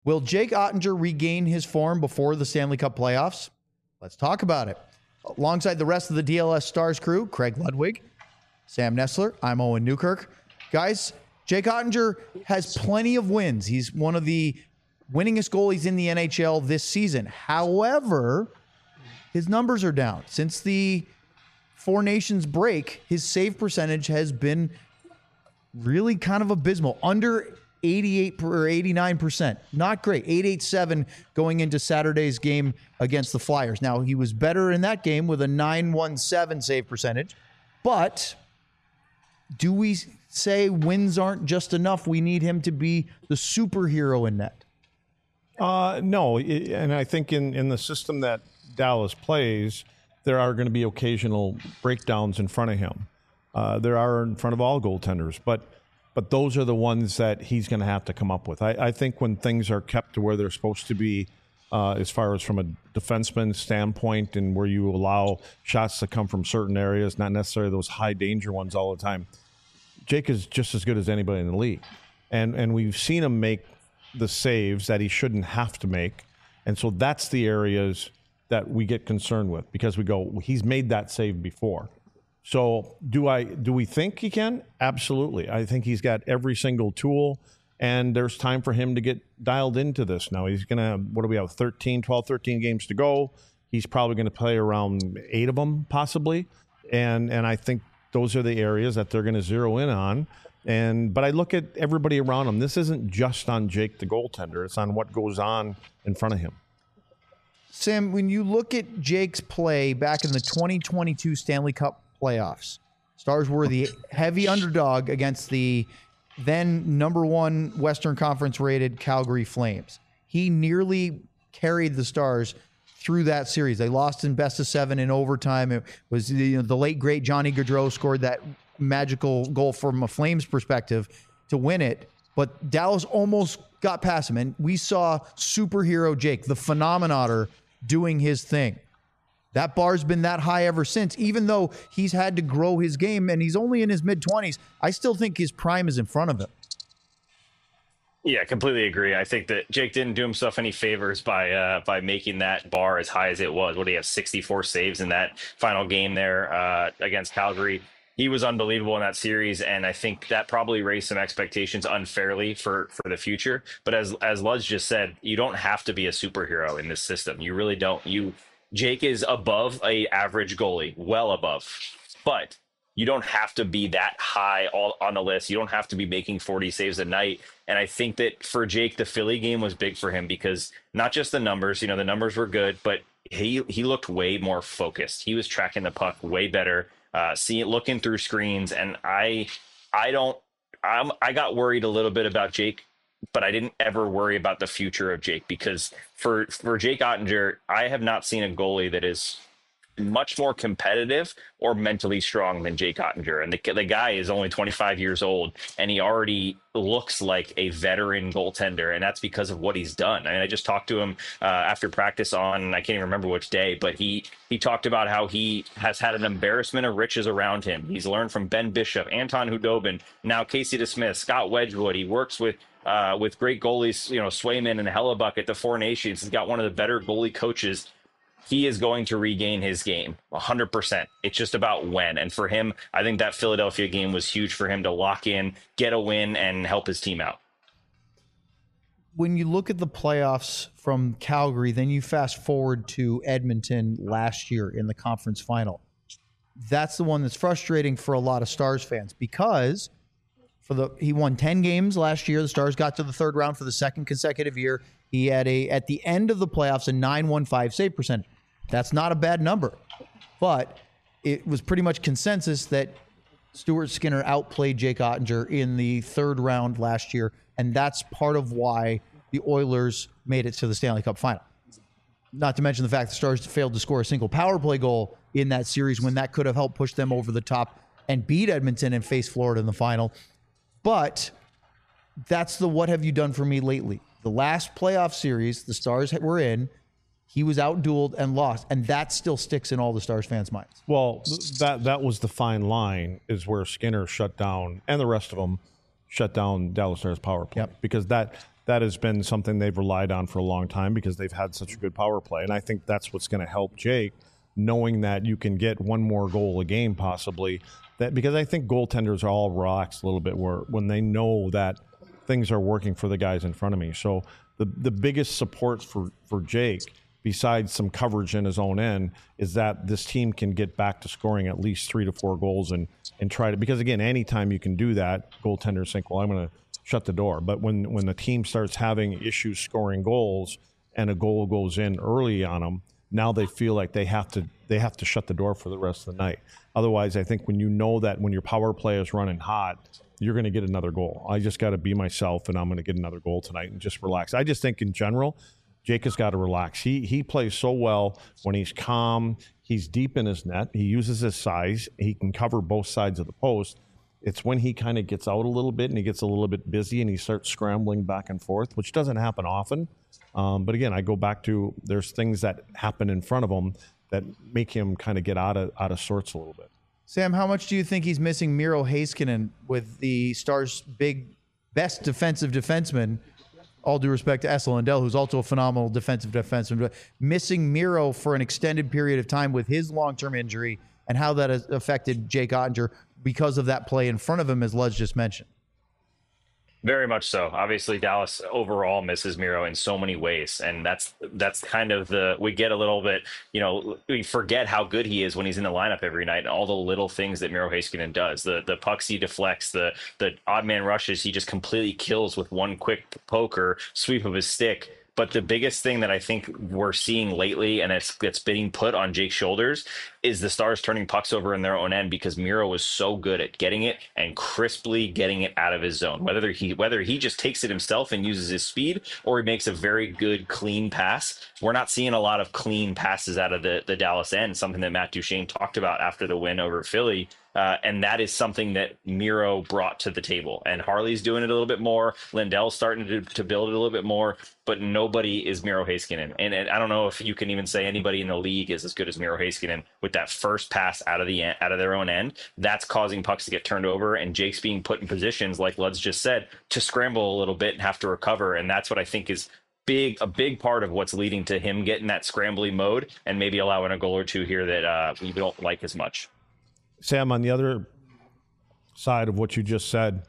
Will Jake Ottinger regain his form before the Stanley Cup playoffs? Let's talk about it. Alongside the rest of the DLS Stars crew, Craig Ludwig, Sam Nessler, I'm Owen Newkirk. Guys, Jake Ottinger has plenty of wins. He's one of the winningest goalies in the NHL this season. However, his numbers are down. Since the Four Nations break, his save percentage has been really kind of abysmal. Under 88 or 89%. Not great. 887 going into Saturday's game against the Flyers. Now, he was better in that game with a 917 save percentage. But do we say wins aren't just enough? We need him to be the superhero in net. No, and I think in the system that Dallas plays, there are going to be occasional breakdowns in front of him. There are in front of all goaltenders, but those are the ones that he's going to have to come up with. I think when things are kept to where they're supposed to be, as far as from a defenseman standpoint and where you allow shots to come from certain areas, not necessarily those high danger ones all the time, Jake is just as good as anybody in the league. And we've seen him make the saves that he shouldn't have to make. And so that's the areas that we get concerned with because we go, he's made that save before. So do we think he can? Absolutely. I think he's got every single tool, and there's time for him to get dialed into this. Now he's going to, what do we have, 12, 13 games to go. He's probably going to play around 8 of them possibly. And I think those are the areas that they're going to zero in on. But I look at everybody around him. This isn't just on Jake, the goaltender. It's on what goes on in front of him. Sam, when you look at Jake's play back in the 2022 Stanley Cup playoffs, Stars were the heavy underdog against the then #1 Western Conference rated Calgary Flames. He nearly carried the Stars through that series. They lost in best of 7 in overtime. It was the late great Johnny Gaudreau scored that magical goal from a Flames perspective to win it. But Dallas almost got past him, and we saw superhero Jake, the phenomenator, doing his thing. That bar's been that high ever since, even though he's had to grow his game and he's only in his mid-20s. I still think his prime is in front of him. Yeah, completely agree. I think that Jake didn't do himself any favors by making that bar as high as it was. What do you have, 64 saves in that final game there against Calgary? He was unbelievable in that series, and I think that probably raised some expectations unfairly for the future. But as Lutz just said, you don't have to be a superhero in this system. You really don't. Jake is above a average goalie, well above, but you don't have to be that high all on the list. You don't have to be making 40 saves a night. And I think that for Jake, the Philly game was big for him because not just the numbers, the numbers were good, but he looked way more focused. He was tracking the puck way better, looking through screens. And I got worried a little bit about Jake, but I didn't ever worry about the future of Jake because for Jake Ottinger, I have not seen a goalie that is much more competitive or mentally strong than Jake Ottinger. And the guy is only 25 years old, and he already looks like a veteran goaltender, and that's because of what he's done. I mean, I just talked to him after practice on, I can't even remember which day, but he talked about how he has had an embarrassment of riches around him. He's learned from Ben Bishop, Anton Hudobin, now Casey DeSmith, Scott Wedgwood. He works with great goalies, Swayman and Hellebuck at the Four Nations. He's got one of the better goalie coaches. He is going to regain his game 100%. It's just about when. And for him, I think that Philadelphia game was huge for him to lock in, get a win, and help his team out. When you look at the playoffs from Calgary, then you fast forward to Edmonton last year in the conference final. That's the one that's frustrating for a lot of Stars fans because he won 10 games last year. The Stars got to the third round for the second consecutive year. He had at the end of the playoffs, a 915 save percentage. That's not a bad number, but it was pretty much consensus that Stuart Skinner outplayed Jake Ottinger in the third round last year, and that's part of why the Oilers made it to the Stanley Cup final. Not to mention the fact the Stars failed to score a single power play goal in that series when that could have helped push them over the top and beat Edmonton and face Florida in the final. But that's the what have you done for me lately. The last playoff series the Stars were in, he was outdueled and lost, and that still sticks in all the Stars fans' minds. Well, that was the fine line is where Skinner shut down, and the rest of them shut down Dallas Stars power play. Yep. Because that that has been something they've relied on for a long time because they've had such a good power play. And I think that's what's going to help Jake, knowing that you can get one more goal a game possibly. That because I think goaltenders are all relaxed a little bit when they know that things are working for the guys in front of me. So the biggest support for Jake, besides some coverage in his own end, is that this team can get back to scoring at least 3 to 4 goals and try to, because again, anytime you can do that, goaltenders think, well, I'm going to shut the door. But when the team starts having issues scoring goals and a goal goes in early on them, now they feel like they have to shut the door for the rest of the night. Otherwise, I think when you know that when your power play is running hot, you're going to get another goal. I just got to be myself, and I'm going to get another goal tonight and just relax. I just think in general, Jake has got to relax. He plays so well when he's calm. He's deep in his net. He uses his size. He can cover both sides of the post. It's when he kind of gets out a little bit and he gets a little bit busy and he starts scrambling back and forth, which doesn't happen often. But again, I go back to there's things that happen in front of him that make him kind of get out of sorts a little bit. Sam, how much do you think he's missing Miro Heiskanen with the Stars' best defensive defenseman? All due respect to Esa Lindell, who's also a phenomenal defensive defenseman, but missing Miro for an extended period of time with his long-term injury and how that has affected Jake Ottinger because of that play in front of him, as Luz just mentioned. Very much so. Obviously, Dallas overall misses Miro in so many ways, and that's kind of we get a little bit, we forget how good he is when he's in the lineup every night, and all the little things that Miro Heiskanen does. The pucks he deflects, the odd man rushes he just completely kills with one quick poke or sweep of his stick. But the biggest thing that I think we're seeing lately, and it's being put on Jake's shoulders, is the Stars turning pucks over in their own end because Miro was so good at getting it and crisply getting it out of his zone. Whether he just takes it himself and uses his speed, or he makes a very good clean pass. We're not seeing a lot of clean passes out of the Dallas end, something that Matt Duchene talked about after the win over Philly. And that is something that Miro brought to the table. And Harley's doing it a little bit more. Lindell's starting to build it a little bit more. But nobody is Miro Heiskanen. And I don't know if you can even say anybody in the league is as good as Miro Heiskanen with that first pass out of their own end. That's causing pucks to get turned over. And Jake's being put in positions, like Lutz just said, to scramble a little bit and have to recover. And that's what I think is a big part of what's leading to him getting that scrambly mode and maybe allowing a goal or two here that we don't like as much. Sam, on the other side of what you just said,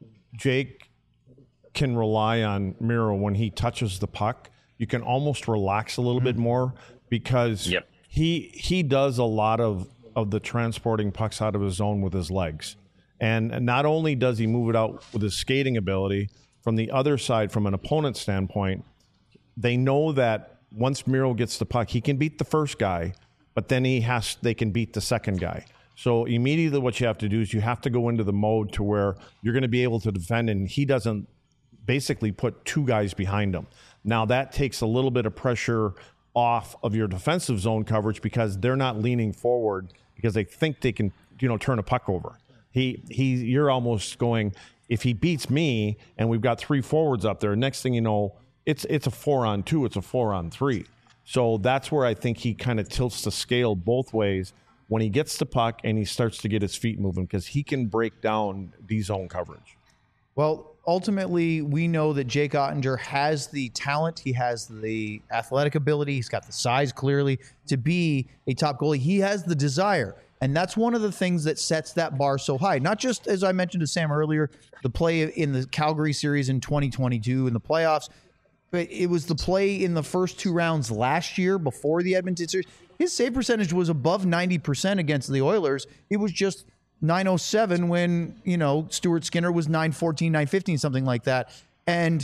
Jake can rely on Miro when he touches the puck. You can almost relax a little bit more because he does a lot of the transporting pucks out of his zone with his legs. And not only does he move it out with his skating ability, from the other side, from an opponent's standpoint, they know that once Miro gets the puck, he can beat the first guy, but then they can beat the second guy. So immediately what you have to do is you have to go into the mode to where you're going to be able to defend, and he doesn't basically put 2 guys behind him. Now that takes a little bit of pressure off of your defensive zone coverage because they're not leaning forward because they think they can, turn a puck over. You're almost going, if he beats me and we've got 3 forwards up there, next thing you know, it's a 4-on-2, it's a 4-on-3. So that's where I think he kind of tilts the scale both ways when he gets the puck and he starts to get his feet moving because he can break down D-zone coverage. Well, ultimately, we know that Jake Ottinger has the talent. He has the athletic ability. He's got the size, clearly, to be a top goalie. He has the desire. And that's one of the things that sets that bar so high. Not just, as I mentioned to Sam earlier, the play in the Calgary series in 2022 in the playoffs, but it was the play in the first 2 rounds last year before the Edmonton series. His save percentage was above 90% against the Oilers. It was just .907 when, Stuart Skinner was .914, .915, something like that. And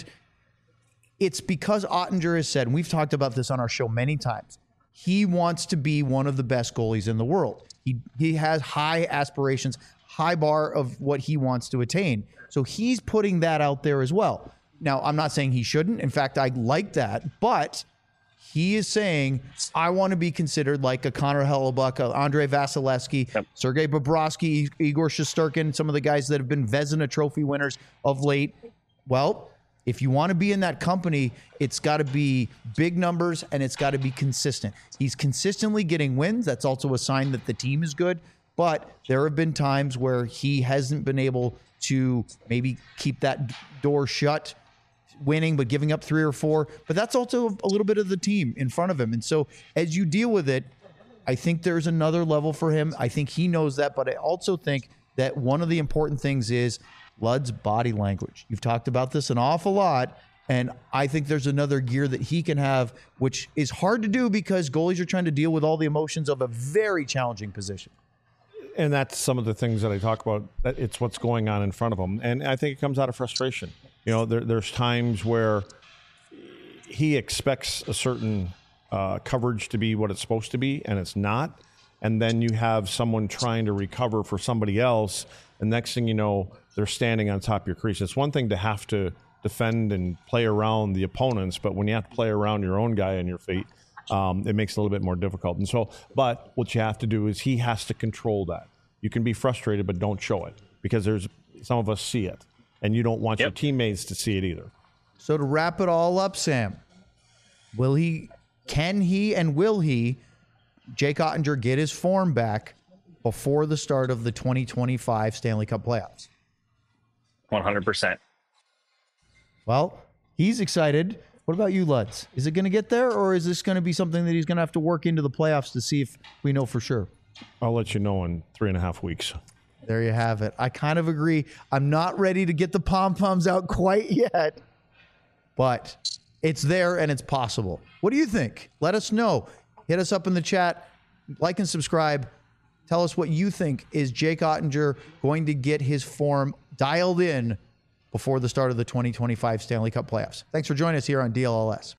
it's because Ottinger has said, and we've talked about this on our show many times, he wants to be one of the best goalies in the world. He has high aspirations, high bar of what he wants to attain. So he's putting that out there as well. Now, I'm not saying he shouldn't. In fact, I like that. But he is saying, I want to be considered like a Connor Hellebuyck, a Andrei Vasilevsky, Sergei Bobrovsky, Igor Shesterkin, some of the guys that have been Vezina Trophy winners of late. Well, if you want to be in that company, it's got to be big numbers and it's got to be consistent. He's consistently getting wins. That's also a sign that the team is good. But there have been times where he hasn't been able to maybe keep that door shut winning but giving up 3 or 4. But that's also a little bit of the team in front of him. And so as you deal with it, I think there's another level for him. I think he knows that, but I also think that one of the important things is Ludd's body language. You've talked about this an awful lot, and I think there's another gear that he can have, which is hard to do because goalies are trying to deal with all the emotions of a very challenging position. And that's some of the things that I talk about. That it's what's going on in front of him, and I think it comes out of frustration. You know, there's times where he expects a certain coverage to be what it's supposed to be, and it's not. And then you have someone trying to recover for somebody else, and next thing you know, they're standing on top of your crease. It's one thing to have to defend and play around the opponents, but when you have to play around your own guy on your feet, it makes it a little bit more difficult. And so, but what you have to do is he has to control that. You can be frustrated, but don't show it, because there's some of us see it, and you don't want your teammates to see it either. So to wrap it all up, Sam, will he Jake Oettinger get his form back before the start of the 2025 Stanley Cup playoffs? 100%. Well, he's excited. What about you, Lutz? Is it going to get there, or is this going to be something that he's going to have to work into the playoffs to see if we know for sure? I'll let you know in 3.5 weeks. There you have it. I kind of agree. I'm not ready to get the pom-poms out quite yet, but it's there and it's possible. What do you think? Let us know. Hit us up in the chat. Like and subscribe. Tell us what you think. Is Jake Oettinger going to get his form dialed in before the start of the 2025 Stanley Cup playoffs? Thanks for joining us here on DLLS.